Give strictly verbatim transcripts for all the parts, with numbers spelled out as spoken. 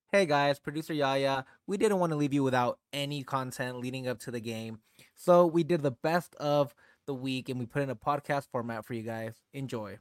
Hey guys, producer Yaya. We didn't want to leave you without any content leading up to the game. So we did the best of the week and we put in a podcast format for you guys. Enjoy.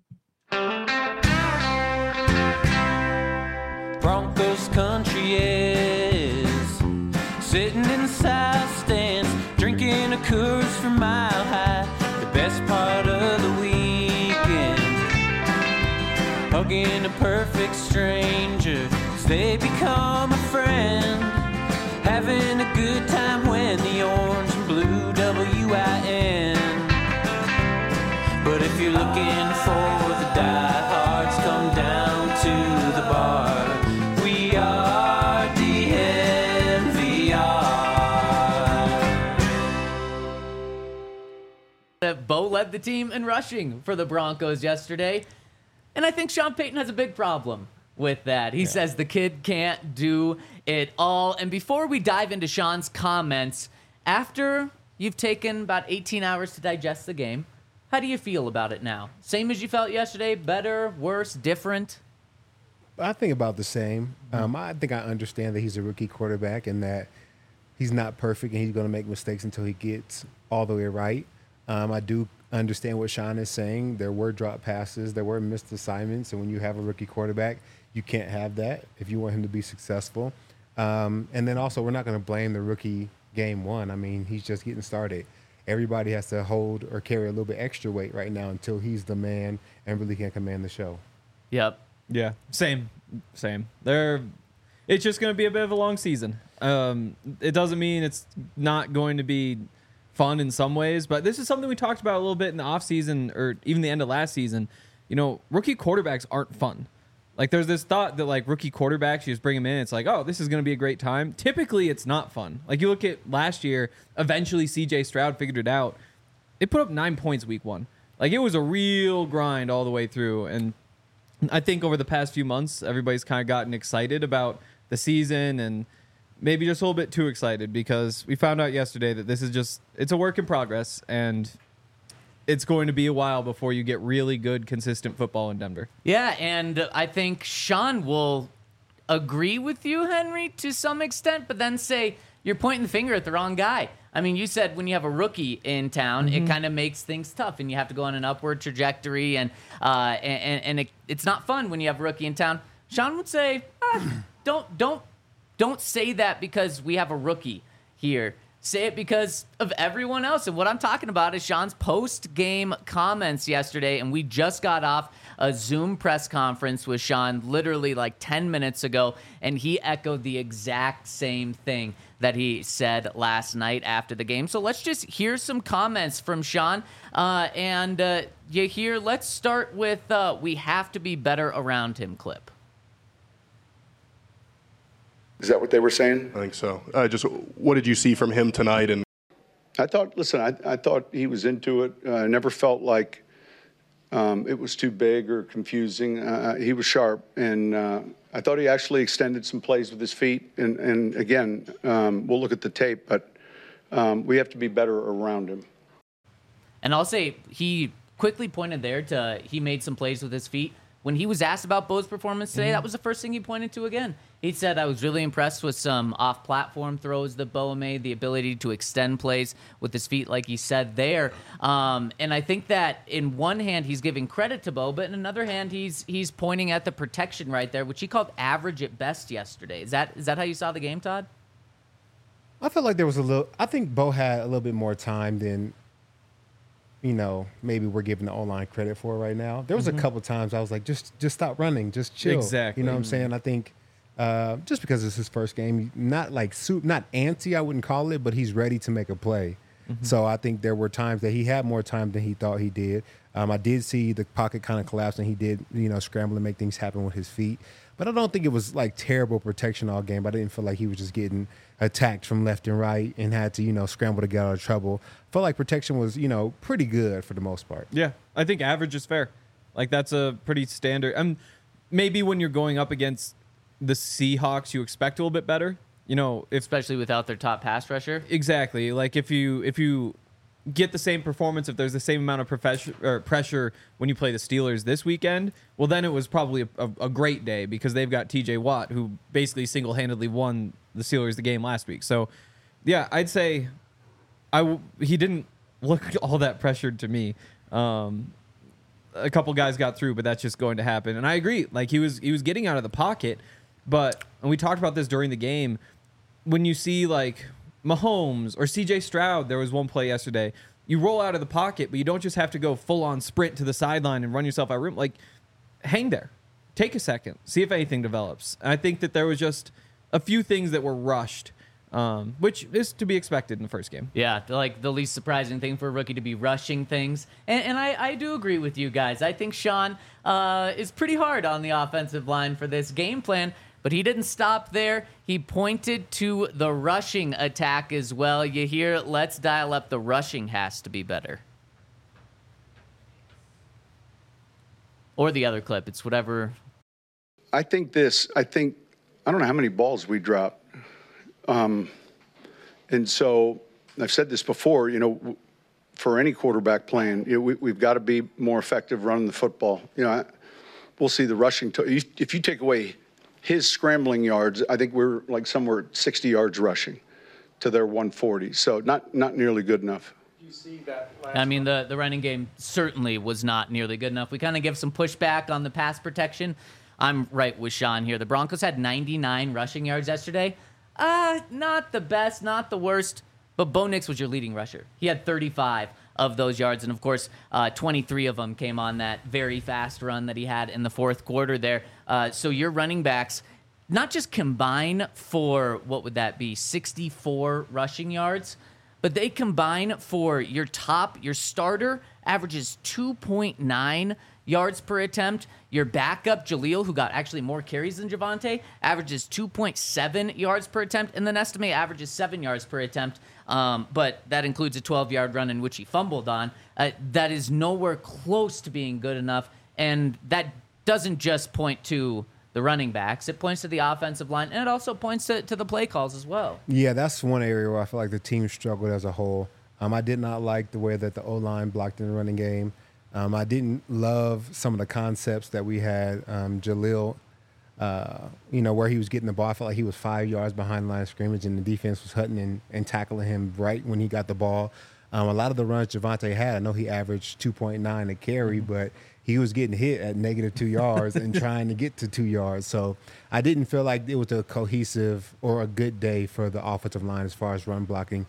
Broncos country is sitting in the south stands, drinking a Coors from Mile High. The best part of the weekend, hugging a perfect stranger, they become a friend, having a good time when the orange and blue W I N. But if you're looking for the diehards, come down to the bar. We are D N V R. Bo led the team in rushing for the Broncos yesterday, and I think Sean Payton has a big problem with that. He yeah. says the kid can't do it all. And before we dive into Sean's comments, after you've taken about eighteen hours to digest the game, how do you feel about it now? Same as you felt yesterday? Better, worse, different? I think about the same. Um, I think I understand that he's a rookie quarterback and that he's not perfect and he's going to make mistakes until he gets all the way right. Um, I do understand what Sean is saying. There were drop passes, there were missed assignments, and when you have a rookie quarterback, you can't have that if you want him to be successful. Um, and then also, we're not going to blame the rookie game one. I mean, he's just getting started. Everybody has to hold or carry a little bit extra weight right now until he's the man and really can command the show. Yep. Yeah, same, same. They're, it's just going to be a bit of a long season. Um, it doesn't mean it's not going to be fun in some ways, but this is something we talked about a little bit in the offseason or even the end of last season. You know, rookie quarterbacks aren't fun. Like, there's this thought that, like, rookie quarterbacks, you just bring them in, it's like, oh, this is going to be a great time. Typically, it's not fun. Like, you look at last year, eventually C J Stroud figured it out. They put up nine points week one. Like, it was a real grind all the way through. And I think over the past few months, everybody's kind of gotten excited about the season and maybe just a little bit too excited because we found out yesterday that this is just, it's a work in progress, and it's going to be a while before you get really good, consistent football in Denver. Yeah, and I think Sean will agree with you, Henry, to some extent, but then say you're pointing the finger at the wrong guy. I mean, you said when you have a rookie in town, mm-hmm. it kind of makes things tough, and you have to go on an upward trajectory, and uh, and, and it, it's not fun when you have a rookie in town. Sean would say, ah, don't don't don't say that because we have a rookie here. Say it because of everyone else. And what I'm talking about is Sean's post-game comments yesterday, and we just got off a Zoom press conference with Sean literally like ten minutes ago, and he echoed the exact same thing that he said last night after the game. So let's just hear some comments from Sean. Uh, and uh, you hear, let's start with uh, we have to be better around him clip. Is that what they were saying? I think so. Uh, just what did you see from him tonight? And I thought, listen, I, I thought he was into it. Uh, I never felt like um, it was too big or confusing. Uh, he was sharp, and uh, I thought he actually extended some plays with his feet. And, and again, um, we'll look at the tape, but um, we have to be better around him. And I'll say he quickly pointed there to he made some plays with his feet. When he was asked about Bo's performance today, mm-hmm. that was the first thing he pointed to again. He said, I was really impressed with some off-platform throws that Bo made, the ability to extend plays with his feet, like he said there. Um, and I think that in one hand, he's giving credit to Bo, but in another hand, he's he's pointing at the protection right there, which he called average at best yesterday. Is that is that how you saw the game, Todd? I felt like there was a little – I think Bo had a little bit more time than – you know, maybe we're giving the O-line credit for right now. There was mm-hmm. a couple times I was like, just just stop running, just chill. Exactly. You know what I'm saying? I think uh, just because it's his first game, not like soup, not antsy, I wouldn't call it, but he's ready to make a play. Mm-hmm. So I think there were times that he had more time than he thought he did. Um, I did see the pocket kind of collapse, and he did, you know, scramble and make things happen with his feet. But I don't think it was like terrible protection all game. I didn't feel like he was just getting attacked from left and right and had to, you know, scramble to get out of trouble. Felt like protection was, you know, pretty good for the most part. Yeah, I think average is fair. Like, that's a pretty standard. Um, maybe when you're going up against the Seahawks, you expect a little bit better. You know, if especially without their top pass rusher. Exactly. Like if you if you get the same performance, if there's the same amount of profession, or pressure when you play the Steelers this weekend, well, then it was probably a, a, a great day because they've got T J Watt, who basically single-handedly won the Steelers the game last week. So, yeah, I'd say I w- he didn't look all that pressured to me. Um, a couple guys got through, but that's just going to happen. And I agree. Like, he was he was getting out of the pocket, but, and we talked about this during the game, when you see, like, Mahomes or C J Stroud, there was one play yesterday. You roll out of the pocket, but you don't just have to go full-on sprint to the sideline and run yourself out of room. Like, hang there. Take a second. See if anything develops. And I think that there was just a few things that were rushed, um, which is to be expected in the first game. Yeah, like the least surprising thing for a rookie to be rushing things. And, and I, I do agree with you guys. I think Sean uh, is pretty hard on the offensive line for this game plan. But he didn't stop there. He pointed to the rushing attack as well. You hear, let's dial up the rushing has to be better. Or the other clip. It's whatever. I think this, I think, I don't know how many balls we dropped. Um, and so I've said this before, you know, for any quarterback playing, you know, we, we've got to be more effective running the football. You know, I, we'll see the rushing. To, if you take away his scrambling yards, I think we're like somewhere sixty yards rushing to their one forty. So not not nearly good enough. You see that I mean, the, the running game certainly was not nearly good enough. We kind of give some pushback on the pass protection. I'm right with Sean here. The Broncos had ninety-nine rushing yards yesterday. Uh, not the best, not the worst, but Bo Nix was your leading rusher. He had thirty-five of those yards, and of course, uh, twenty-three of them came on that very fast run that he had in the fourth quarter there. Uh, so your running backs not just combine for, what would that be, sixty-four rushing yards, but they combine for your top, your starter averages two point nine yards per attempt. Your backup, Jaleel, who got actually more carries than Javonte, averages two point seven yards per attempt, and then Estime averages seven yards per attempt. Um, but that includes a twelve-yard run in which he fumbled on. Uh, that is nowhere close to being good enough, and that doesn't just point to the running backs. It points to the offensive line, and it also points to, to the play calls as well. Yeah, that's one area where I feel like the team struggled as a whole. Um, I did not like the way that the O-line blocked in the running game. Um, I didn't love some of the concepts that we had. Um, Jaleel, uh, you know, where he was getting the ball, I felt like he was five yards behind the line of scrimmage, and the defense was hunting and, and tackling him right when he got the ball. Um, a lot of the runs Javonte had, I know he averaged two point nine a carry, but he was getting hit at negative two yards and trying to get to two yards. So I didn't feel like it was a cohesive or a good day for the offensive line as far as run blocking.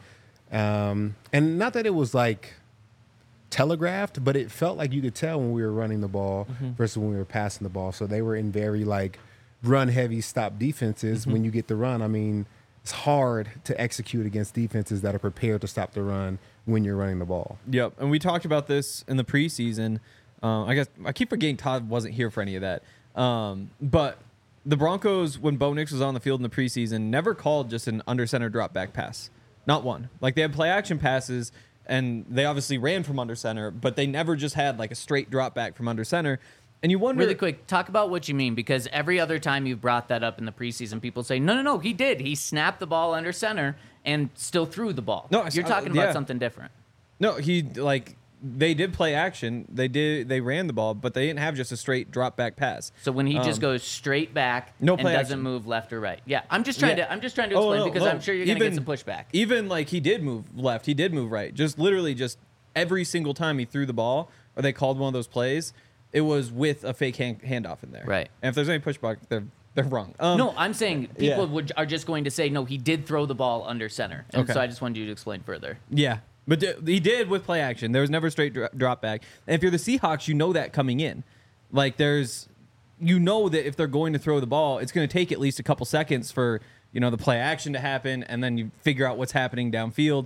Um, and not that it was like telegraphed, but it felt like you could tell when we were running the ball mm-hmm. versus when we were passing the ball. So they were in very like run heavy stop defenses. Mm-hmm. When you get the run, I mean, it's hard to execute against defenses that are prepared to stop the run when you're running the ball. Yep. And we talked about this in the preseason. Uh, I guess I keep forgetting Todd wasn't here for any of that. Um, but the Broncos, when Bo Nix was on the field in the preseason, never called just an under center drop back pass. Not one. Like they had play action passes, and they obviously ran from under center, but they never just had like a straight drop back from under center. And you wonder... Really quick, talk about what you mean, because every other time you've brought that up in the preseason, people say, no, no, no, he did. He snapped the ball under center and still threw the ball. No, You're talking uh, about yeah. something different. No, he, like, they did play action. They did. They ran the ball, but they didn't have just a straight drop back pass. So when he um, just goes straight back no and play doesn't action. move left or right. Yeah, I'm just trying Yeah. to I'm just trying to Oh, explain no, because no. I'm sure you're going to get some pushback. Even like he did move left, he did move right. Just literally just every single time he threw the ball or they called one of those plays, it was with a fake hand, handoff in there. Right. And if there's any pushback, they're they're wrong. Um, no, I'm saying people yeah. would, are just going to say, no, he did throw the ball under center. And Okay. so I just wanted you to explain further. Yeah. But th- he did with play action. There was never straight dro- drop back. And if you're the Seahawks, you know that coming in. Like there's, you know that if they're going to throw the ball, it's going to take at least a couple seconds for, you know, the play action to happen, and then you figure out what's happening downfield.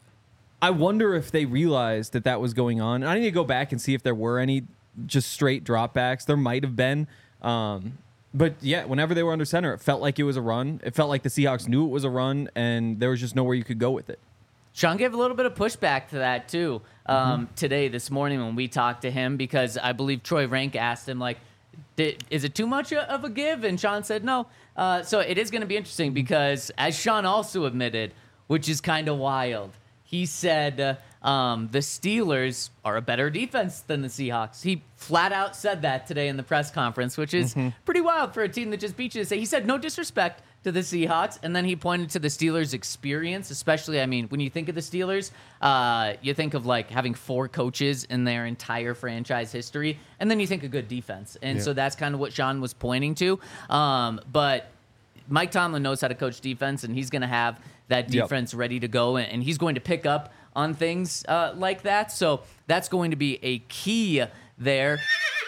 I wonder if they realized that that was going on. I need to go back and see if there were any just straight dropbacks. There might have been. Um, but yeah, whenever they were under center, it felt like it was a run. It felt like the Seahawks knew it was a run, and there was just nowhere you could go with it. Sean gave a little bit of pushback to that, too, um, Mm-hmm. today, this morning when we talked to him, because I believe Troy Rank asked him, like, Did, is it too much of a give? And Sean said no. Uh, so it is going to be interesting because, as Sean also admitted, which is kind of wild, he said, uh, um, the Steelers are a better defense than the Seahawks. He flat out said that today in the press conference, which is mm-hmm. pretty wild for a team that just beat you to say. He said no disrespect to the Seahawks, and then he pointed to the Steelers' experience, especially, I mean, when you think of the Steelers, uh, you think of, like, having four coaches in their entire franchise history, and then you think of good defense. And yeah. so that's kind of what Sean was pointing to. Um, but Mike Tomlin knows how to coach defense, and he's going to have that defense yep. ready to go, and, and he's going to pick up on things uh, like that. So that's going to be a key there.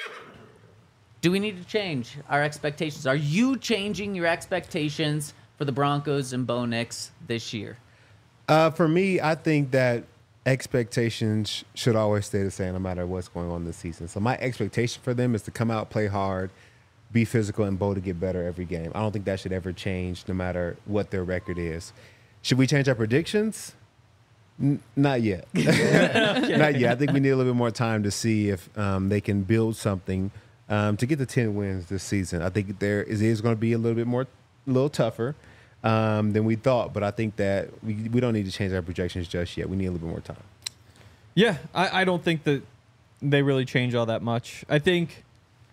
Do we need to change our expectations? Are you changing your expectations for the Broncos and Bo Nix this year? Uh, for me, I think that expectations should always stay the same no matter what's going on this season. So my expectation for them is to come out, play hard, be physical, and Bo to get better every game. I don't think that should ever change no matter what their record is. Should we change our predictions? N- not yet. okay. Not yet. I think we need a little bit more time to see if um, they can build something Um, to get the ten wins this season. I think there is, is going to be a little bit more, a little tougher um, than we thought, but I think that we, we don't need to change our projections just yet. We need a little bit more time. Yeah, I, I don't think that they really change all that much. I think,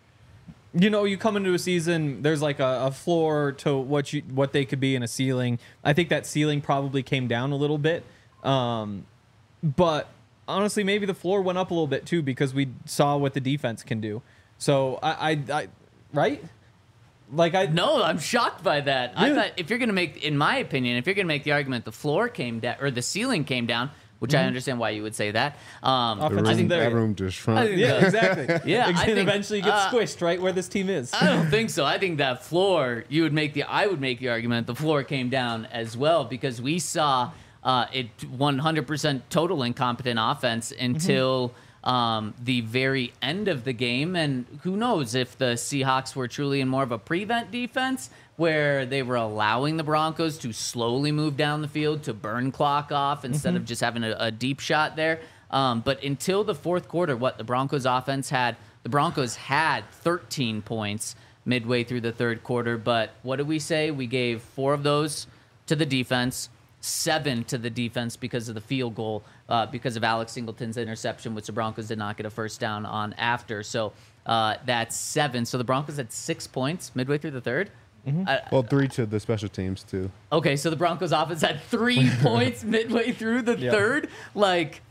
you know, you come into a season, there's like a, a floor to what you what they could be in a ceiling. I think that ceiling probably came down a little bit, um, but honestly, maybe the floor went up a little bit too because we saw what the defense can do. So I, I, I, right? Like I no, I'm shocked by that. Yeah. I thought if you're gonna make, in my opinion, if you're gonna make the argument the floor came down or the ceiling came down, which mm-hmm. I understand why you would say that. Um, the room, I think that room just shrunk. Yeah, exactly. Yeah, I think, eventually get uh, squished right where this team is. I don't think so. I think that floor, you would make the, I would make the argument the floor came down as well because we saw uh, it one hundred percent total incompetent offense until. Mm-hmm. Um, the very end of the game, and who knows if the Seahawks were truly in more of a prevent defense where they were allowing the Broncos to slowly move down the field to burn clock off instead mm-hmm. of just having a, a deep shot there. Um, but until the fourth quarter, what the Broncos offense had, the Broncos had thirteen points midway through the third quarter, but what did we say? We gave four of those to the defense, seven to the defense because of the field goal, uh, because of Alex Singleton's interception, which the Broncos did not get a first down on after. So uh, that's seven. So the Broncos had six points midway through the third. Mm-hmm. Uh, well, three to the special teams, too. Okay, so the Broncos offense had three points midway through the yep. third. Like,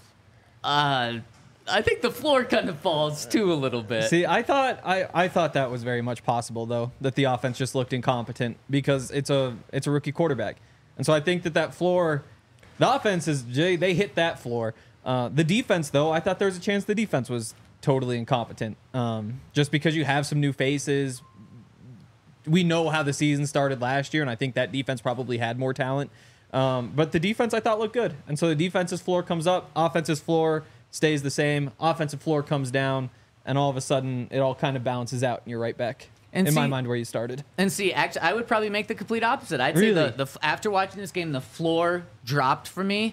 uh, I think the floor kind of falls, too, a little bit. See, I thought I, I thought that was very much possible, though, that the offense just looked incompetent because it's a it's a rookie quarterback. And so I think that that floor, the offense is, they hit that floor. Uh, the defense, though, I thought there was a chance the defense was totally incompetent. Um, just because you have some new faces. We know how the season started last year, and I think that defense probably had more talent. Um, but the defense, I thought, looked good. And so the defense's floor comes up, offense's floor stays the same, offensive floor comes down, and all of a sudden it all kind of balances out, and you're right back. And in see, my mind, where you started. And see, actually, I would probably make the complete opposite. I'd really? say the, the after watching this game, the floor dropped for me.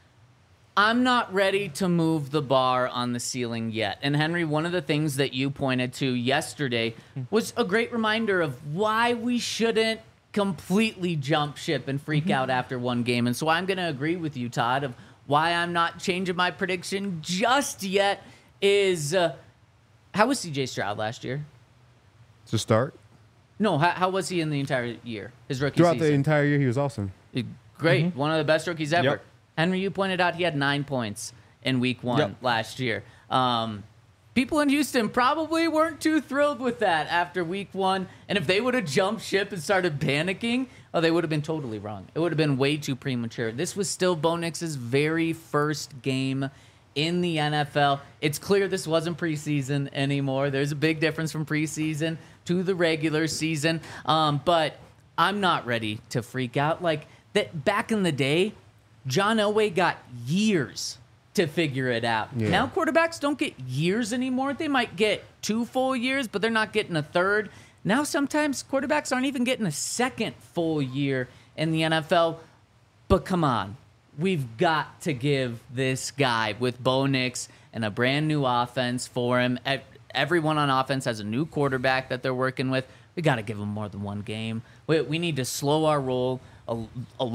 I'm not ready to move the bar on the ceiling yet. And Henry, one of the things that you pointed to yesterday was a great reminder of why we shouldn't completely jump ship and freak out after one game. And so I'm going to agree with you, Todd, of why I'm not changing my prediction just yet is uh, how was C J Stroud last year? To start? No, how, how was he in the entire year? His rookie Throughout season? Throughout the entire year, he was awesome. Great. Mm-hmm. One of the best rookies ever. Yep. Henry, you pointed out he had nine points in week one yep. last year. Um, people in Houston probably weren't too thrilled with that after week one. And if they would have jumped ship and started panicking, oh, they would have been totally wrong. It would have been way too premature. This was still Bo Nix's very first game in the N F L. It's clear this wasn't preseason anymore. There's a big difference from preseason to the regular season. Um, but I'm not ready to freak out. Like that back in the day, John Elway got years to figure it out. Yeah. Now quarterbacks don't get years anymore. They might get two full years, but they're not getting a third. Now sometimes quarterbacks aren't even getting a second full year in the N F L. But come on. We've got to give this guy with Bo Nix and a brand new offense for him. Everyone on offense has a new quarterback that they're working with. We got to give him more than one game. We, we need to slow our roll a, a lot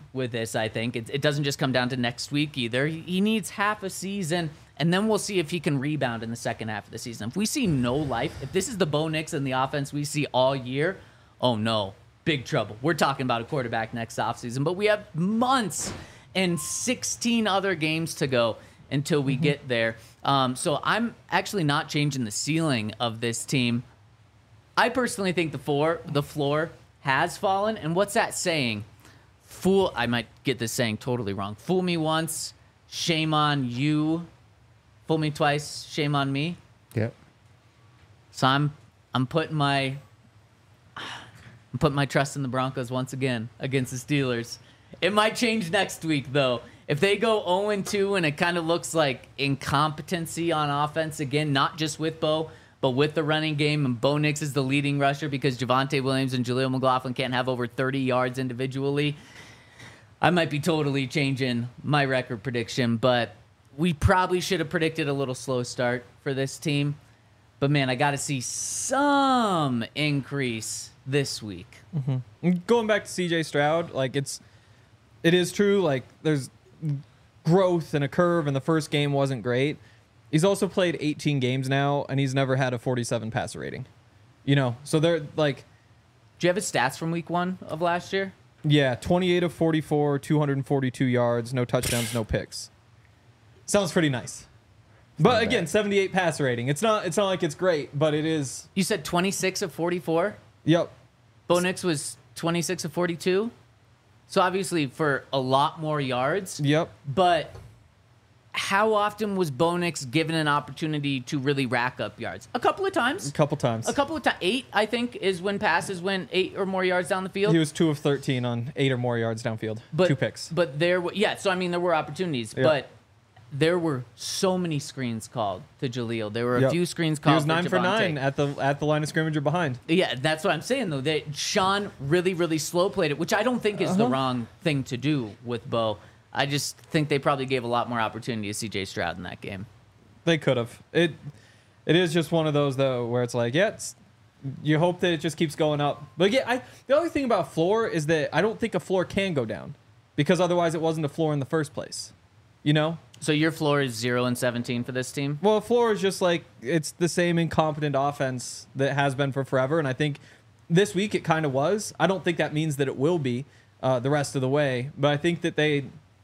with this, I think. It, it doesn't just come down to next week either. He, he needs half a season, and then we'll see if he can rebound in the second half of the season. If we see no life, if this is the Bo Nix and the offense we see all year, oh no, big trouble. We're talking about a quarterback next offseason, but we have months and sixteen other games to go until we mm-hmm. get there. Um, so I'm actually not changing the ceiling of this team. I personally think the floor, the floor has fallen. And what's that saying? Fool, I might get this saying totally wrong. Fool me once, shame on you. Fool me twice, shame on me. Yep. So I'm I'm putting my I'm putting my trust in the Broncos once again against the Steelers. It might change next week though. If they go oh and two and it kind of looks like incompetency on offense again, not just with Bo, but with the running game, and Bo Nix is the leading rusher because Javonte Williams and Jaleel McLaughlin can't have over thirty yards individually, I might be totally changing my record prediction, but we probably should have predicted a little slow start for this team. But, man, I got to see some increase this week. Mm-hmm. Going back to C J Stroud, like it's, it is true, like there's growth and a curve, and the first game wasn't great. He's also played eighteen games now, and he's never had a forty-seven passer rating. You know, so they're like... Do you have his stats from week one of last year? Yeah, twenty-eight of forty-four, two hundred forty-two yards, no touchdowns, no picks. Sounds pretty nice. But not again, bad. seventy-eight passer rating. It's not It's not like it's great, but it is... You said twenty-six of forty-four? Yep. Bo Nix was twenty-six of forty-two? So obviously for a lot more yards. Yep. But how often was Bo Nix given an opportunity to really rack up yards? A couple of times. A couple times. A couple of times. Eight, I think, is when passes went eight or more yards down the field. He was two of thirteen on eight or more yards downfield. But, Two picks. But there were, yeah, so I mean, there were opportunities. Yep. But there were so many screens called to Jaleel. There were a Yep. few screens He called was nine for, for Javonte. nine at the at the line of scrimmage or behind. Yeah, that's what I'm saying, though. That Sean really, really slow played it, which I don't think is the Uh-huh. wrong thing to do with Bo. I just think they probably gave a lot more opportunity to C J Stroud in that game. They could have. It it is just one of those though where it's like, yeah, it's, you hope that it just keeps going up. But yeah, I the only thing about floor is that I don't think a floor can go down because otherwise it wasn't a floor in the first place. You know? So your floor is zero and seventeen for this team? Well, a floor is just like it's the same incompetent offense that has been for forever, and I think this week it kind of was. I don't think that means that it will be uh, the rest of the way, but I think that they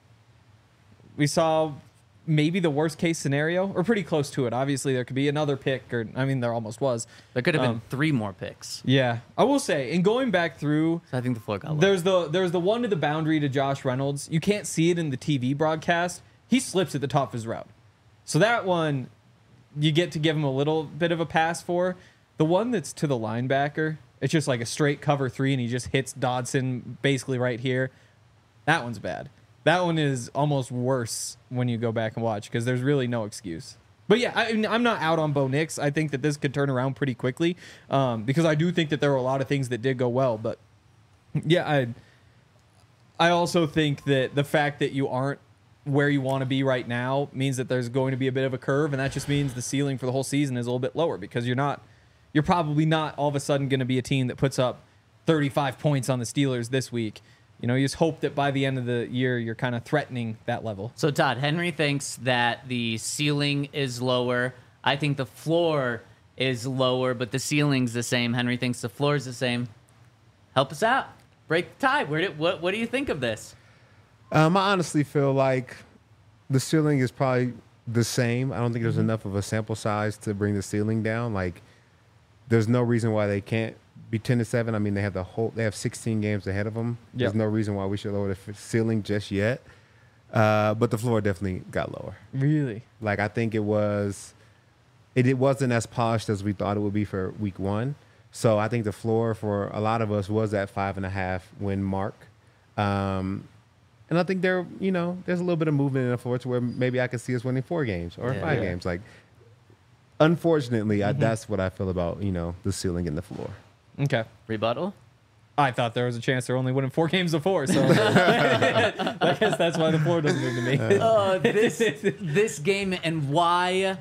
we saw maybe the worst case scenario, or pretty close to it. Obviously, there could be another pick, or I mean, there almost was. There could have been Um, three more picks. Yeah, I will say, in going back through, So I think the floor got low. there's the there's the one to the boundary to Josh Reynolds. You can't see it in the T V broadcast. He slips at the top of his route, so that one you get to give him a little bit of a pass for. The one that's to the linebacker, it's just like a straight cover three, and he just hits Dodson basically right here. That one's bad. That one is almost worse when you go back and watch because there's really no excuse. But yeah, I, I'm not out on Bo Nix. I think that this could turn around pretty quickly um, because I do think that there were a lot of things that did go well. But yeah, I I also think that the fact that you aren't where you want to be right now means that there's going to be a bit of a curve, and that just means the ceiling for the whole season is a little bit lower because you're not you're probably not all of a sudden going to be a team that puts up thirty-five points on the Steelers this week. You know, you just hope that by the end of the year, you're kind of threatening that level. So, Todd, Henry thinks that the ceiling is lower. I think the floor is lower, but the ceiling's the same. Henry thinks the floor is the same. Help us out. Break the tie. Where did, what, what do you think of this? Um, I honestly feel like the ceiling is probably the same. I don't think there's enough of a sample size to bring the ceiling down. Like, there's no reason why they can't be ten to seven. I mean, they have the whole. They have sixteen games ahead of them. Yep. There's no reason why we should lower the f- ceiling just yet. Uh, but the floor definitely got lower. Really? Like I think it was, it, it wasn't as polished as we thought it would be for week one. So I think the floor for a lot of us was at five and a half win mark. Um, and I think there, you know, there's a little bit of movement in the floor to where maybe I could see us winning four games or Yeah. five Yeah. games. Like, unfortunately, Mm-hmm. I, that's what I feel about, you know, the ceiling and the floor. Okay. Rebuttal? I thought there was a chance they're only winning four games before, so I guess that's why the floor doesn't move to me. Uh, this this game and why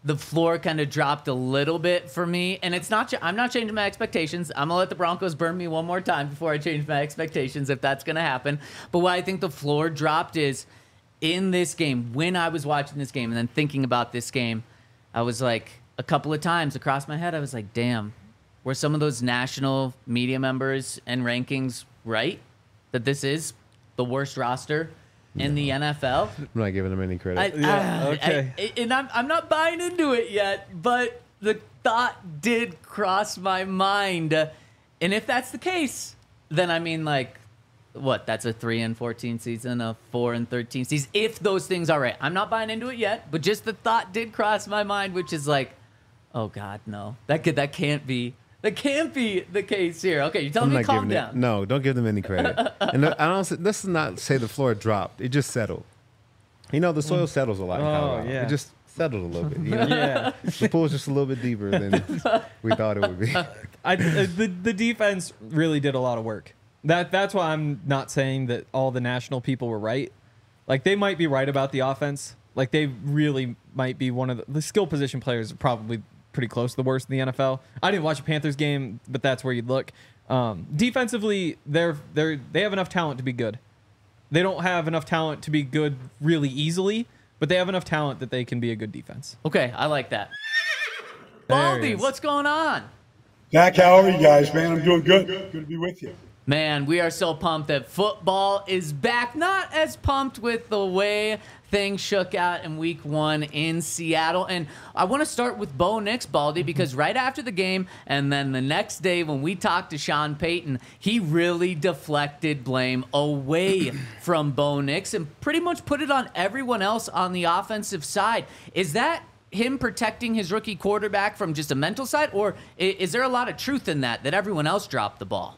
the floor kind of dropped a little bit for me. And it's not, I'm not changing my expectations. I'm going to let the Broncos burn me one more time before I change my expectations, if that's going to happen. But what I think the floor dropped is in this game, when I was watching this game and then thinking about this game, I was like, a couple of times across my head, I was like, damn, were some of those national media members and rankings right? That this is the worst roster in the N F L? I'm not giving them any credit. I, Yeah, uh, okay. I- and I'm, I'm not buying into it yet, but the thought did cross my mind. And if that's the case, then I mean, like, what? That's a three and fourteen season, a four and thirteen season. If those things are right, I'm not buying into it yet, but just the thought did cross my mind, which is like, oh God, no, that could, that can't be, that can't be the case here. Okay, you're telling I'm me not to calm giving down. It, no, don't give them any credit. And I don't. say- Let's not say the floor dropped. It just settled. You know, the soil settles a lot in Oh, Colorado. yeah. It just settled a little bit. You know? Yeah. The pool's just a little bit deeper than we thought it would be. I, uh, the, the defense really did a lot of work. That That's why I'm not saying that all the national people were right. Like, they might be right about the offense. Like, they really might be one of the, the skill position players are probably pretty close to the worst in the N F L. I didn't watch a Panthers game, but that's where you'd look. Um, defensively, they're they're they have enough talent to be good. They don't have enough talent to be good really easily, but they have enough talent that they can be a good defense. Okay, I like that. There he Baldy, is. what's going on? Zach, how are you guys, man? I'm doing good. Good to be with you. Man, we are so pumped that football is back. Not as pumped with the way things shook out in week one in Seattle. And I want to start with Bo Nix, Baldy, because right after the game and then the next day when we talked to Sean Payton, he really deflected blame away from Bo Nix and pretty much put it on everyone else on the offensive side. Is that him protecting his rookie quarterback from just a mental side, or i- is there a lot of truth in that, that everyone else dropped the ball?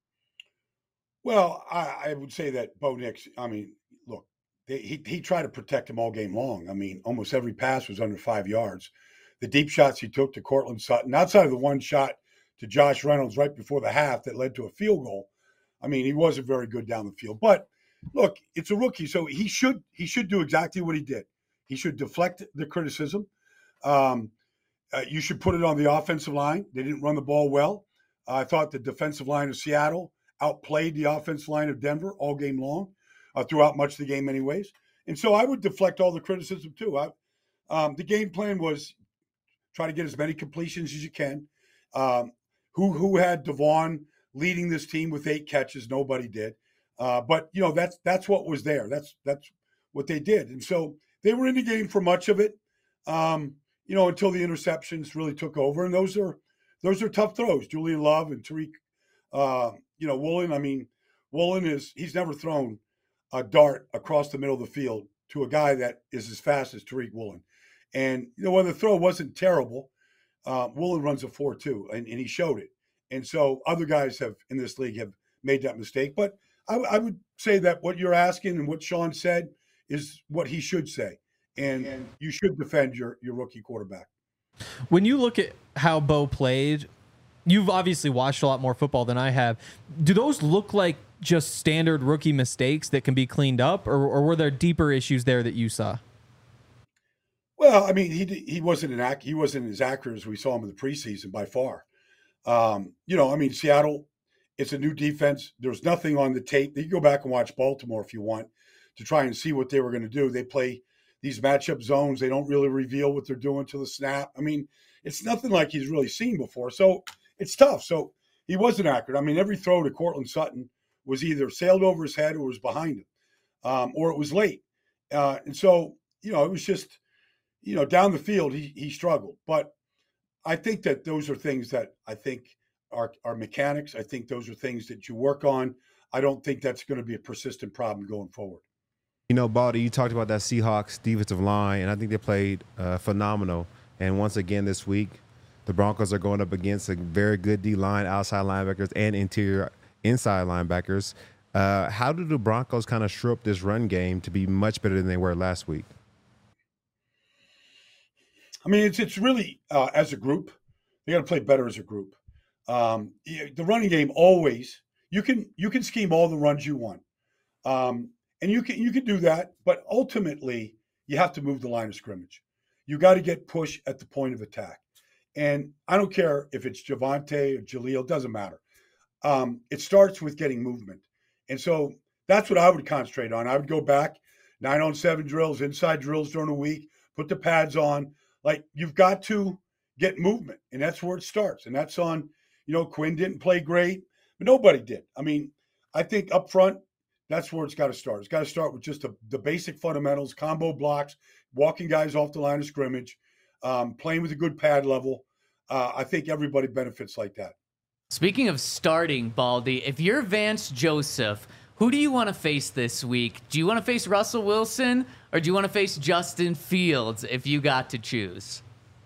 Well, I, I would say that Bo Nix, I mean, look, they, he, he tried to protect him all game long. I mean, almost every pass was under five yards. The deep shots he took to Cortland Sutton, outside of the one shot to Josh Reynolds right before the half that led to a field goal, I mean, he wasn't very good down the field. But look, it's a rookie, so he should he should do exactly what he did. He should deflect the criticism. Um, uh, you should put it on the offensive line. They didn't run the ball well. Uh, I thought the defensive line of Seattle outplayed the offensive line of Denver all game long, uh, throughout much of the game anyways. And so I would deflect all the criticism too. I, um, the game plan was try to get as many completions as you can. Um, who who had Devon leading this team with eight catches? Nobody did. Uh, but, you know, that's that's what was there. That's that's what they did. And so they were in the game for much of it, um, you know, until the interceptions really took over. And those are those are tough throws. Julian Love and Tariq uh, you know, Woolen, I mean, Woolen is, he's never thrown a dart across the middle of the field to a guy that is as fast as Tariq Woolen. And, you know, when the throw wasn't terrible, uh, Woolen runs a four two, and, and he showed it. And so other guys have in this league have made that mistake. But I, I would say that what you're asking and what Sean said is what he should say. And, and you should defend your, your rookie quarterback. When you look at how Bo played, you've obviously watched a lot more football than I have. Do those look like just standard rookie mistakes that can be cleaned up, or, or were there deeper issues there that you saw? Well, I mean, he he wasn't an ac- he wasn't as accurate as we saw him in the preseason by far. Um, you know, I mean, Seattle, it's a new defense. There's nothing on the tape. You can go back and watch Baltimore if you want to try and see what they were going to do. They play these matchup zones. They don't really reveal what they're doing to the snap. I mean, it's nothing like he's really seen before. So it's tough. So he wasn't accurate. I mean, every throw to Cortland Sutton was either sailed over his head or was behind him, um, or it was late. Uh, and so, you know, it was just, you know, down the field, he he struggled. But I think that those are things that I think are, are mechanics. I think those are things that you work on. I don't think that's going to be a persistent problem going forward. You know, Baldy, you talked about that Seahawks defensive line, and I think they played uh, phenomenal. And once again this week, the Broncos are going up against a very good D-line, outside linebackers, and interior inside linebackers. Uh, how do the Broncos kind of shore up this run game to be much better than they were last week? I mean, it's it's really, uh, as a group, they got to play better as a group. Um, the running game always, you can you can scheme all the runs you want. Um, and you can you can do that, but ultimately, you have to move the line of scrimmage. you got to get push at the point of attack. And I don't care if it's Javonte or Jaleel, doesn't matter. Um, it starts with getting movement. And so that's what I would concentrate on. I would go back, nine on seven drills, inside drills during the week, put the pads on. Like, you've got to get movement, and that's where it starts. And that's on, you know, Quinn didn't play great, but nobody did. I mean, I think up front, that's where it's got to start. It's got to start with just the, the basic fundamentals, combo blocks, walking guys off the line of scrimmage, um, playing with a good pad level. Uh, I think everybody benefits like that. Speaking of starting, Baldy, if you're Vance Joseph, who do you want to face this week? Do you want to face Russell Wilson, or do you want to face Justin Fields if you got to choose?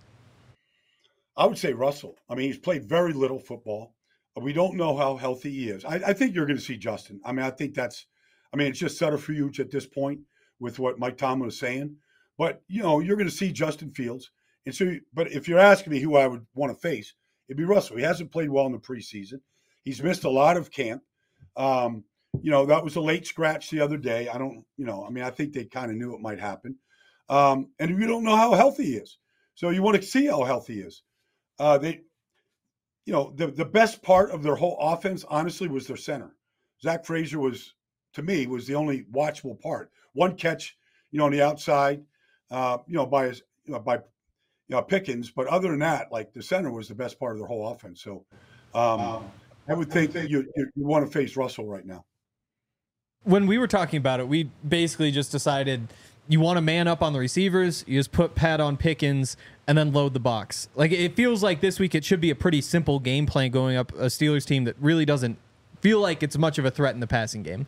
I would say Russell. I mean, he's played very little football. We don't know how healthy he is. I, I think you're going to see Justin. I mean, I think that's, I mean, it's just subterfuge at this point with what Mike Tomlin was saying. But, you know, you're going to see Justin Fields. And so, but if you're asking me who I would want to face, it'd be Russell. He hasn't played well in the preseason. He's missed a lot of camp. Um, you know, that was a late scratch the other day. I don't, you know, I mean, I think they kind of knew it might happen. Um, and we don't know how healthy he is. So you want to see how healthy he is. Uh, they, you know, the, the best part of their whole offense, honestly, was their center. Zach Frazier was, to me, was the only watchable part. One catch, you know, on the outside, uh, you know, by his, you know, by, you know, Pickens. But other than that, like, the center was the best part of their whole offense. So um, um, I would think that you, you, you want to face Russell right now. When we were talking about it, we basically just decided you want to man up on the receivers, you just put Pat on Pickens, and then load the box. Like, it feels like this week it should be a pretty simple game plan going up a Steelers team that really doesn't feel like it's much of a threat in the passing game.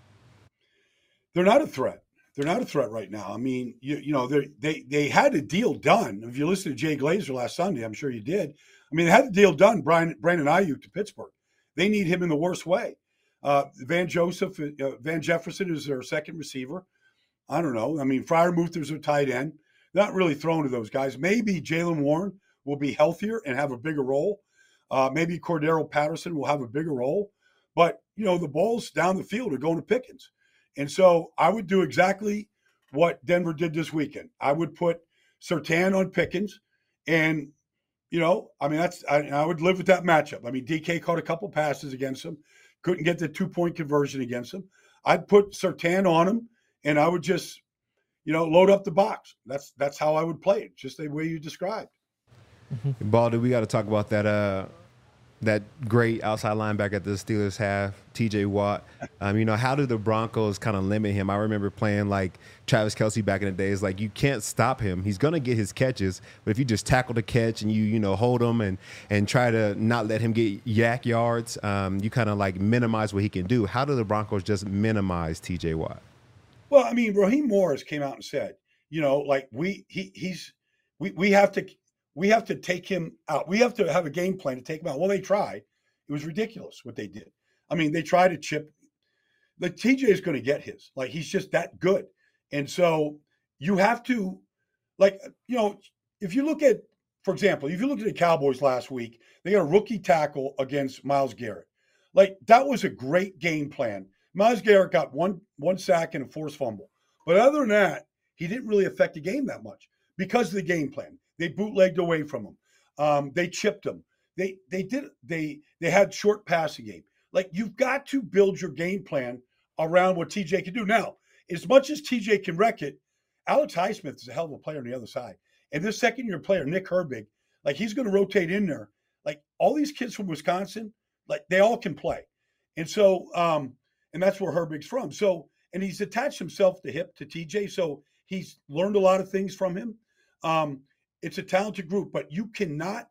They're not a threat. They're not a threat right now. I mean, you you know, they they they had a deal done. If you listened to Jay Glazer last Sunday, I'm sure you did. I mean, they had the deal done, Brian Brandon Ayuk to Pittsburgh. They need him in the worst way. Uh, Van Joseph, uh, Van Jefferson is their second receiver. I don't know. I mean, Freiermuth's their tight end. Not really thrown to those guys. Maybe Jaylen Warren will be healthier and have a bigger role. Uh, maybe Cordero Patterson will have a bigger role. But, you know, the balls down the field are going to Pickens. And so I would do exactly what Denver did this weekend. I would put Surtain on Pickens. And, you know, I mean, that's I, I would live with that matchup. I mean, D K caught a couple passes against him. Couldn't get the two-point conversion against him. I'd put Surtain on him, and I would just, you know, load up the box. That's that's how I would play it, just the way you described. Mm-hmm. Baldy, we got to talk about that uh, that great outside linebacker the Steelers have, T J Watt. Um, you know, how do the Broncos kind of limit him? I remember playing like Travis Kelce back in the days. Like, you can't stop him. He's going to get his catches, but if you just tackle the catch and you, you know, hold him and and try to not let him get yak yards, um, you kind of like minimize what he can do. How do the Broncos just minimize T J Watt? Well, I mean, Raheem Morris came out and said, you know, like we he he's we we have to we have to take him out. We have to have a game plan to take him out. Well, they tried. It was ridiculous what they did. I mean, they tried to chip. The T J is going to get his. Like, he's just that good. And so you have to, like, you know, if you look at, for example, if you look at the Cowboys last week, they got a rookie tackle against Myles Garrett. Like, that was a great game plan. Myles Garrett got one one sack and a forced fumble. But other than that, he didn't really affect the game that much because of the game plan. They bootlegged away from him. Um, they chipped him. They they did they they had short passing game. Like, you've got to build your game plan around what T J can do. Now, as much as T J can wreck it, Alex Highsmith is a hell of a player on the other side. And this second year player, Nick Herbig, like, he's going to rotate in there. Like, all these kids from Wisconsin, like, they all can play. And so, um, and that's where Herbig's from. So, and he's attached himself to hip to T J. So he's learned a lot of things from him. Um, it's a talented group, but you cannot,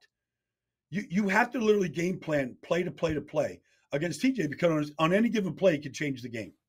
you you have to literally game plan play to play to play against T J, because on any given play, he can change the game.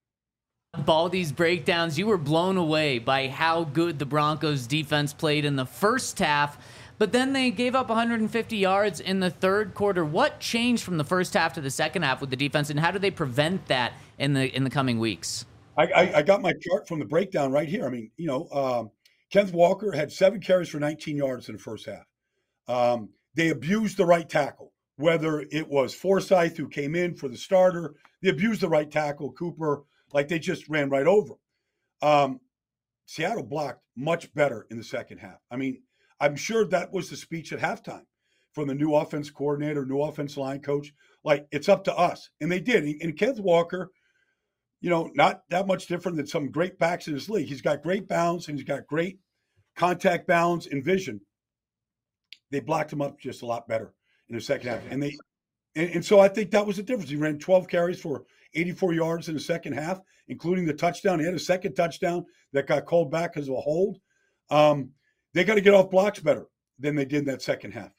Baldy's breakdowns, you were blown away by how good the Broncos defense played in the first half, but then they gave up one hundred fifty yards in the third quarter. What changed from the first half to the second half with the defense, and how do they prevent that in the in the coming weeks? I, I, I got my chart from the breakdown right here. I mean, you know, um, Kenneth Walker had seven carries for nineteen yards in the first half. Um, they abused the right tackle, whether it was Forsythe, who came in for the starter. They abused the right tackle, Cooper, like they just ran right over him. Um, Seattle blocked much better in the second half. I mean, I'm sure that was the speech at halftime from the new offense coordinator, new offense line coach. Like, it's up to us. And they did. And Kenneth Walker, you know, not that much different than some great backs in this league. He's got great balance and he's got great contact balance and vision. They blocked him up just a lot better in the second half. And they and, and so I think that was the difference. He ran twelve carries for eighty-four yards in the second half, including the touchdown. He had a second touchdown that got called back because of a hold. Um, they got to get off blocks better than they did in that second half.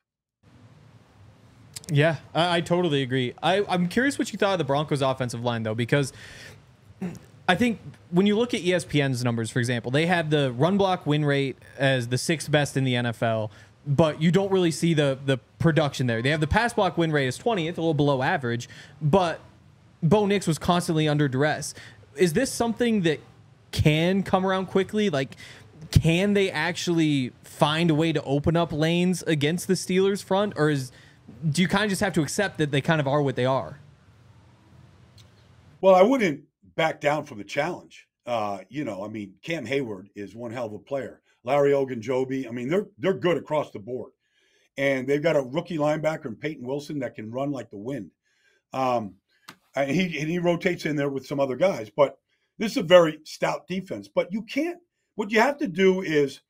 Yeah, I, I totally agree. I, I'm curious what you thought of the Broncos' offensive line, though, because I think when you look at E S P N's numbers, for example, they have the run block win rate as the sixth best in the N F L, but you don't really see the the production there. They have the pass block win rate as twentieth, a little below average, but Bo Nix was constantly under duress. Is this something that can come around quickly? Like, can they actually find a way to open up lanes against the Steelers front? Or is do you kind of just have to accept that they kind of are what they are? Well, I wouldn't back down from the challenge. Uh, you know, I mean, Cam Hayward is one hell of a player. Larry Ogunjobi, I mean, they're they're good across the board. And they've got a rookie linebacker in Peyton Wilson that can run like the wind. Um, and he and he rotates in there with some other guys. But this is a very stout defense. But you can't – what you have to do is,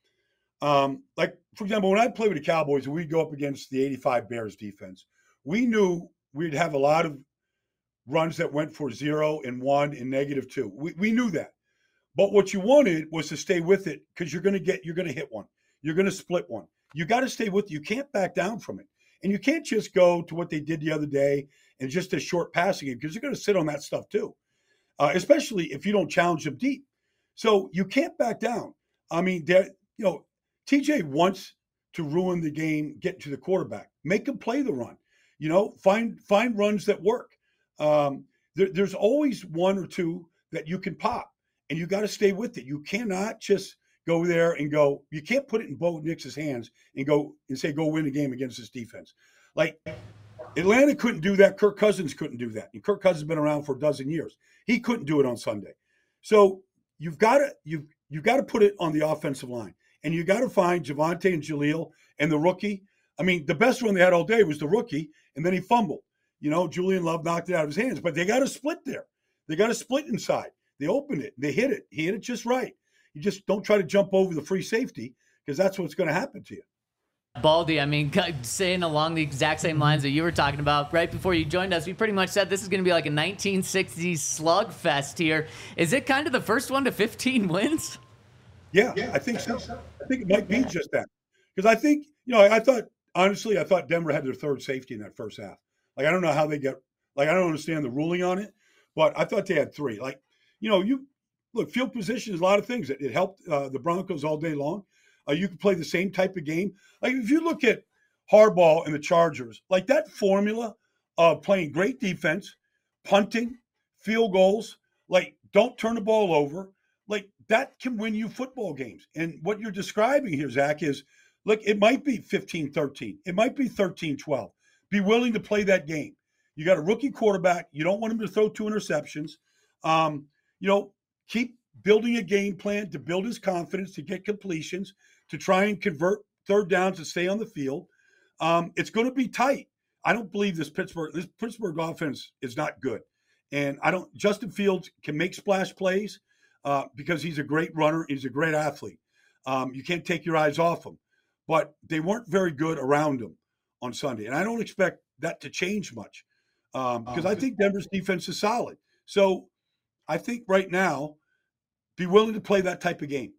um, like, for example, when I played with the Cowboys and we'd go up against the eighty-five Bears defense, we knew we'd have a lot of runs that went for zero and one and negative two. We, we knew that. But what you wanted was to stay with it because you're going to get – you're going to hit one. You're going to split one. You got to stay with it. You can't back down from it. And you can't just go to what they did the other day and just a short passing game because you're going to sit on that stuff too, uh, especially if you don't challenge them deep. So you can't back down. I mean, you know, T J wants to ruin the game, get to the quarterback, make him play the run. You know, find find runs that work. Um, there, there's always one or two that you can pop, and you got to stay with it. You cannot just go there and go, you can't put it in Bo Nix's hands and go and say, go win a game against this defense. Like, Atlanta couldn't do that. Kirk Cousins couldn't do that. And Kirk Cousins has been around for a dozen years. He couldn't do it on Sunday. So you've got to, you've, you've got to put it on the offensive line. And you got to find Javonte and Jaleel and the rookie. I mean, the best one they had all day was the rookie, and then he fumbled. You know, Julian Love knocked it out of his hands. But they got to split there. They got to split inside. They opened it. They hit it. He hit it just right. You just don't try to jump over the free safety because that's what's going to happen to you. Baldy, I mean, saying along the exact same lines that you were talking about right before you joined us, we pretty much said this is going to be like a nineteen sixties slugfest here. Is it kind of the first one to fifteen wins? Yeah, yeah I think so. I think it might be just that. Because I think, you know, I, I thought, honestly, I thought Denver had their third safety in that first half. Like, I don't know how they get, like, I don't understand the ruling on it, but I thought they had three. Like, you know, you, look, field position is a lot of things. It, it helped uh, the Broncos all day long. Uh, you could play the same type of game. Like, if you look at Harbaugh and the Chargers, like that formula of playing great defense, punting, field goals, like don't turn the ball over, like that can win you football games. And what you're describing here, Zach, is, look, it might be fifteen thirteen. It might be thirteen twelve. Be willing to play that game. You got a rookie quarterback. You don't want him to throw two interceptions. Um, you know, keep building a game plan to build his confidence, to get completions, to try and convert third downs to stay on the field. Um, it's going to be tight. I don't believe this Pittsburgh this Pittsburgh offense is not good. And I don't. Justin Fields can make splash plays uh, because he's a great runner. He's a great athlete. Um, you can't take your eyes off him. But they weren't very good around him on Sunday. And I don't expect that to change much um, because I think Denver's defense is solid. So I think right now, be willing to play that type of game.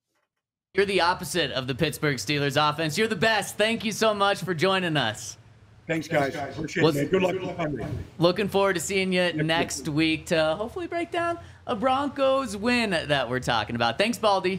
You're the opposite of the Pittsburgh Steelers offense. You're the best. Thank you so much for joining us. Thanks, guys. Appreciate it, man. Good luck with Sunday. Looking forward to seeing you next week to hopefully break down a Broncos win that we're talking about. Thanks, Baldy.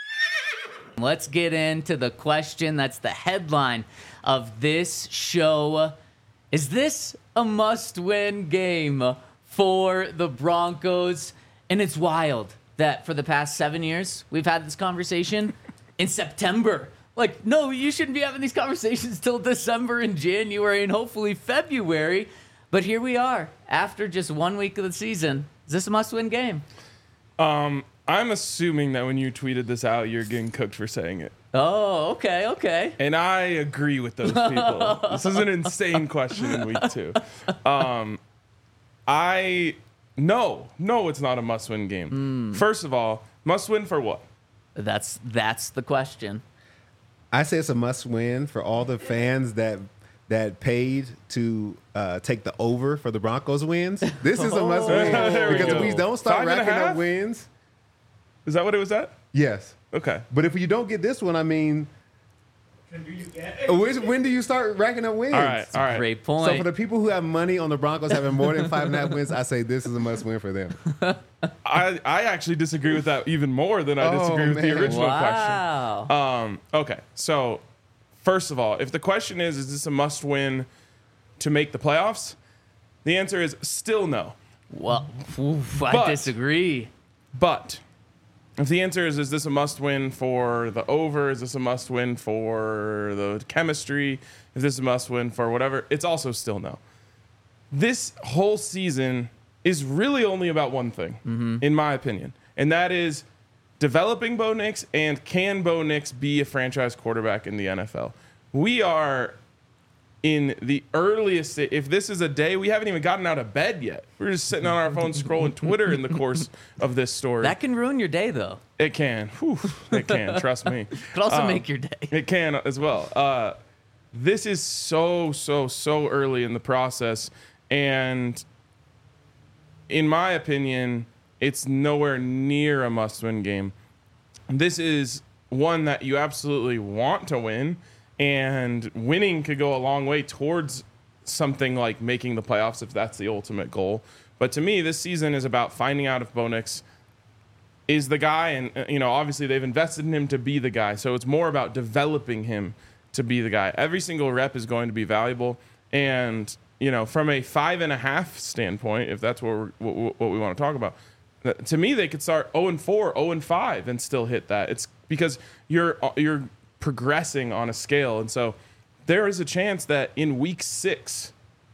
Let's get into the question that's the headline of this show. Is this a must-win game for the Broncos? And it's wild that for the past seven years, we've had this conversation in September. Like, no, you shouldn't be having these conversations till December and January and hopefully February. But here we are after just one week of the season. Is this a must-win game? Um, I'm assuming that when you tweeted this out, you're getting cooked for saying it. Oh, okay, okay. And I agree with those people. This is an insane question in week two. Um, I no, no, it's not a must-win game. Mm. First of all, must-win for what? That's that's the question. I say it's a must-win for all the fans that that paid to uh, take the over for the Broncos wins. This is a must-win There we because go. if we don't start Five and a racking up half? wins, Is that what it was at? yes. Okay. But if you don't get this one, I mean, when, when do you start racking up wins? All right. All right. Great point. So for the people who have money on the Broncos having more than five and a half wins, I say this is a must-win for them. I, I actually disagree with that even more than I Oh, disagree with the man. original wow. question. Um, okay, so first of all, if the question is, is this a must-win to make the playoffs? The answer is still no. Well, oof, I But- disagree. But if the answer is, is this a must-win for the over? Is this a must-win for the chemistry? Is this a must-win for whatever? It's also still no. This whole season is really only about one thing, Mm-hmm. in my opinion, and that is developing Bo Nix and can Bo Nix be a franchise quarterback in the N F L? We are in the earliest, if this is a day, we haven't even gotten out of bed yet. We're just sitting on our phones scrolling Twitter in the course of this story. That can ruin your day, though. It can. Whew, it can. Trust me. Could also Um, make your day. It can as well. Uh, this is so, so, so early in the process. And in my opinion, it's nowhere near a must-win game. This is one that you absolutely want to win. And winning could go a long way towards something like making the playoffs if that's the ultimate goal. But to me, this season is about finding out if Bo Nix is the guy. And, uh, you know, obviously they've invested in him to be the guy. So it's more about developing him to be the guy. Every single rep is going to be valuable. And, you know, from a five and a half standpoint, if that's what, we're, what, what we want to talk about, uh, to me, they could start oh and four, oh and five and still hit that. It's because you're you're progressing on a scale. And so there is a chance that in week six,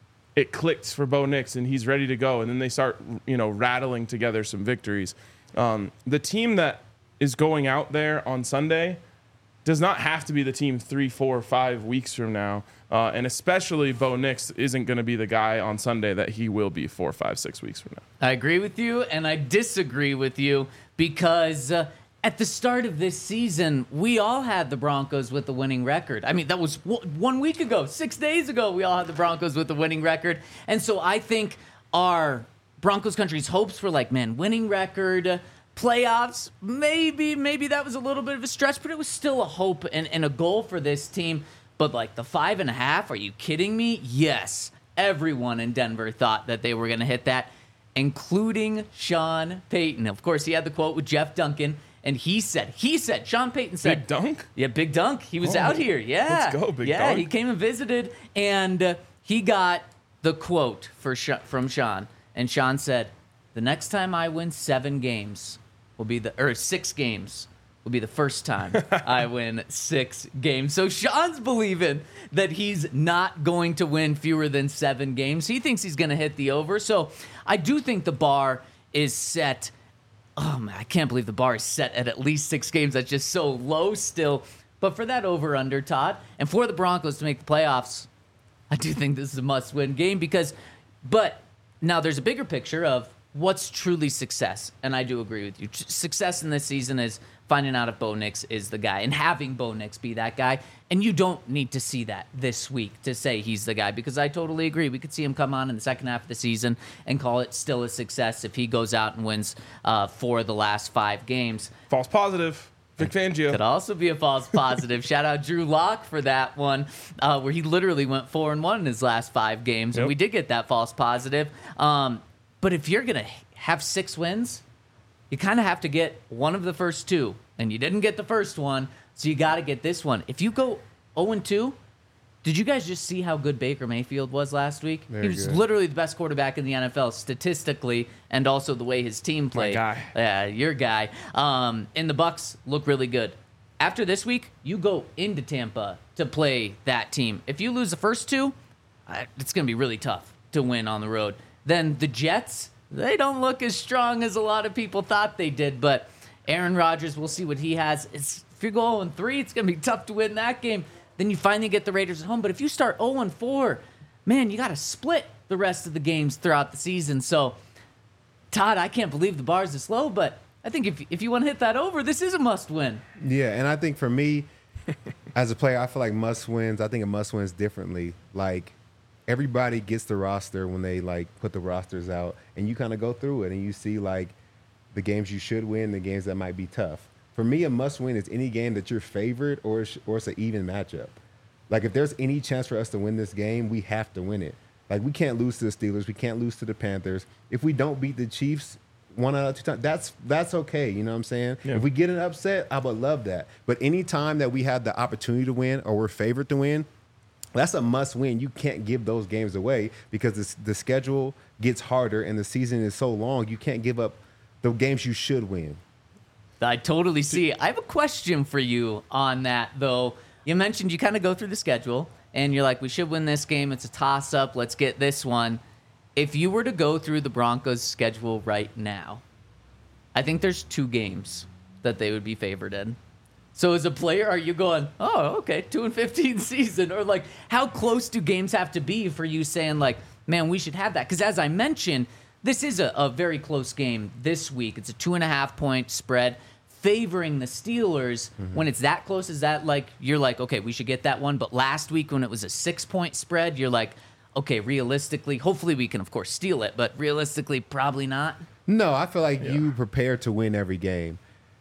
it clicks for Bo Nix and he's ready to go. And then they start, you know, rattling together some victories. Um, the team that is going out there on Sunday does not have to be the team three, four, five weeks from now. Uh, and especially Bo Nix isn't going to be the guy on Sunday that he will be four, five, six weeks from now. I agree with you, and I disagree with you because uh, at the start of this season, we all had the Broncos with the winning record. I mean, that was w- one week ago, six days ago, we all had the Broncos with the winning record. And so I think our Broncos country's hopes were like, man, winning record, uh, playoffs, maybe, maybe that was a little bit of a stretch, but it was still a hope and, and a goal for this team. But like the five and a half, are you kidding me? Yes. Everyone in Denver thought that they were going to hit that, including Sean Payton. Of course, he had the quote with Jeff Duncan, and he said, he said, Sean Payton said, Big Dunk? Yeah, Big Dunk. He was Oh, out here. Yeah. let's go, Big yeah, Dunk. he came and visited, and uh, he got the quote for Sh- from Sean. And Sean said, the next time I win seven games will be the, or six games will be the first time I win six games. So Sean's believing that he's not going to win fewer than seven games. He thinks he's going to hit the over. So I do think the bar is set. Oh, man, I can't believe the bar is set at at least six games. That's just so low still. But for that over-under, Todd, and for the Broncos to make the playoffs, I do think this is a must-win game because, but now there's a bigger picture of what's truly success. And I do agree with you. Success in this season is finding out if Bo Nix is the guy and having Bo Nix be that guy. And you don't need to see that this week to say he's the guy because I totally agree. We could see him come on in the second half of the season and call it still a success if he goes out and wins uh, four of the last five games. False positive. Vic Fangio. Could also be a false positive. Shout out Drew Lock for that one, uh, where he literally went four and one in his last five games, Yep. and we did get that false positive. Um, but if you're gonna have six wins, you kind of have to get one of the first two, and you didn't get the first one, so you got to get this one. If you go oh and two, did you guys just see how good Baker Mayfield was last week? Very he was good. literally the best quarterback in the N F L statistically, and also the way his team played. guy. Yeah, your guy. Um, and the Bucks look really good. After this week, you go into Tampa to play that team. If you lose the first two, uh, it's going to be really tough to win on the road. Then the Jets, they don't look as strong as a lot of people thought they did. But Aaron Rodgers, we'll see what he has. It's, if you go oh and three, it's going to be tough to win that game. Then you finally get the Raiders at home. But if you start oh and four, man, you got to split the rest of the games throughout the season. So, Todd, I can't believe the bar's this low, but I think if if you want to hit that over, this is a must-win. Yeah, and I think for me, as a player, I feel like must-wins, I think of must-wins differently. Like, everybody gets the roster when they, like, put the rosters out, and you kind of go through it, and you see, like, the games you should win, the games that might be tough. For me, a must-win is any game that you're favored or it's, or it's an even matchup. Like, if there's any chance for us to win this game, we have to win it. Like, we can't lose to the Steelers. We can't lose to the Panthers. If we don't beat the Chiefs one out of two times, that's that's okay. You know what I'm saying? Yeah. If we get an upset, I would love that. But any time that we have the opportunity to win or we're favored to win, that's a must-win. You can't give those games away because the, the schedule gets harder and the season is so long, you can't give up the games you should win. I totally see. I have a question for you on that, though. You mentioned you kind of go through the schedule, and you're like, we should win this game. It's a toss-up. Let's get this one. If you were to go through the Broncos' schedule right now, I think there's two games that they would be favored in. So as a player, are you going, oh, okay, two and fifteen season? Or, like, how close do games have to be for you saying, like, man, we should have that? Because as I mentioned, this is a, a very close game this week. It's a two-and-a-half-point spread favoring the Steelers. Mm-hmm. When it's that close, is that like, you're like, okay, we should get that one? But last week when it was a six-point spread, you're like, okay, realistically, hopefully we can, of course, steal it, but realistically, probably not? No, I feel like Yeah. you prepare to win every game.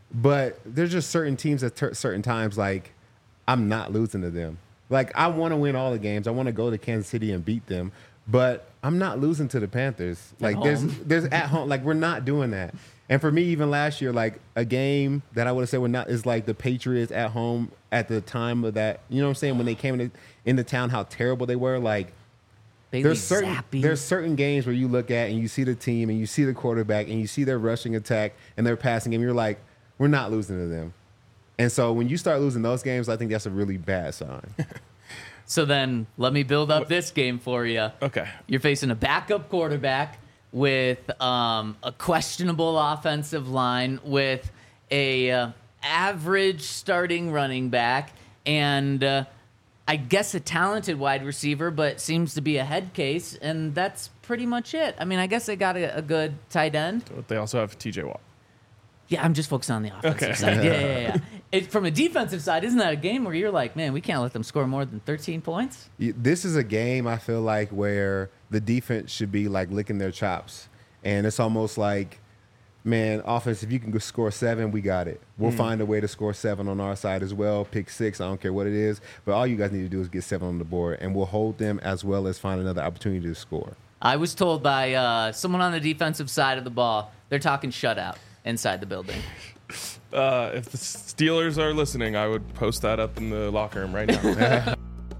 But there's just certain teams at ter- certain times, like, I'm not losing to them. Like, I want to win all the games. I want to go to Kansas City and beat them. But I'm not losing to the Panthers. Like, At there's home. there's at home. Like, we're not doing that. And for me, even last year, like, a game that I would have said we're not is like the Patriots at home at the time of that. You know what I'm saying? When they came into, into town, how terrible they were. Like, Bailey there's certain Zappi. there's certain games where you look at and you see the team and you see the quarterback and you see their rushing attack and their passing game. You're like, we're not losing to them. And so when you start losing those games, I think that's a really bad sign. So then let me build up this game for you. Okay. You're facing a backup quarterback with um, a questionable offensive line, with a uh, average starting running back, and uh, I guess a talented wide receiver, but seems to be a head case, and that's pretty much it. I mean, I guess they got a, a good tight end. But they also have T J Watt. Yeah, I'm just focused on the offensive Okay. side. Yeah, yeah, yeah. It, from a defensive side, isn't that a game where you're like, man, we can't let them score more than thirteen points? This is a game I feel like where the defense should be like licking their chops. And it's almost like, man, offense, if you can go score seven, we got it. We'll mm. find a way to score seven on our side as well. Pick six, I don't care what it is. But all you guys need to do is get seven on the board, and we'll hold them as well as find another opportunity to score. I was told by uh, someone on the defensive side of the ball, they're talking shutout inside the building. Uh, if the Steelers are listening, I would post that up in the locker room right now.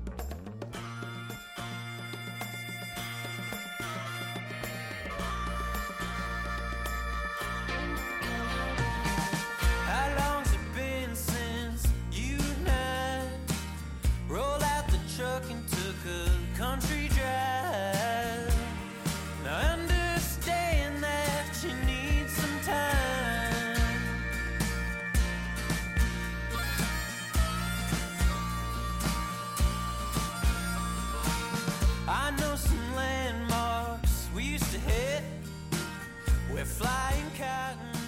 How long's it been since you and I rolled out the truck and took a country drive? Now I understand that you need some time. I know some landmarks we used to hit where flying cotton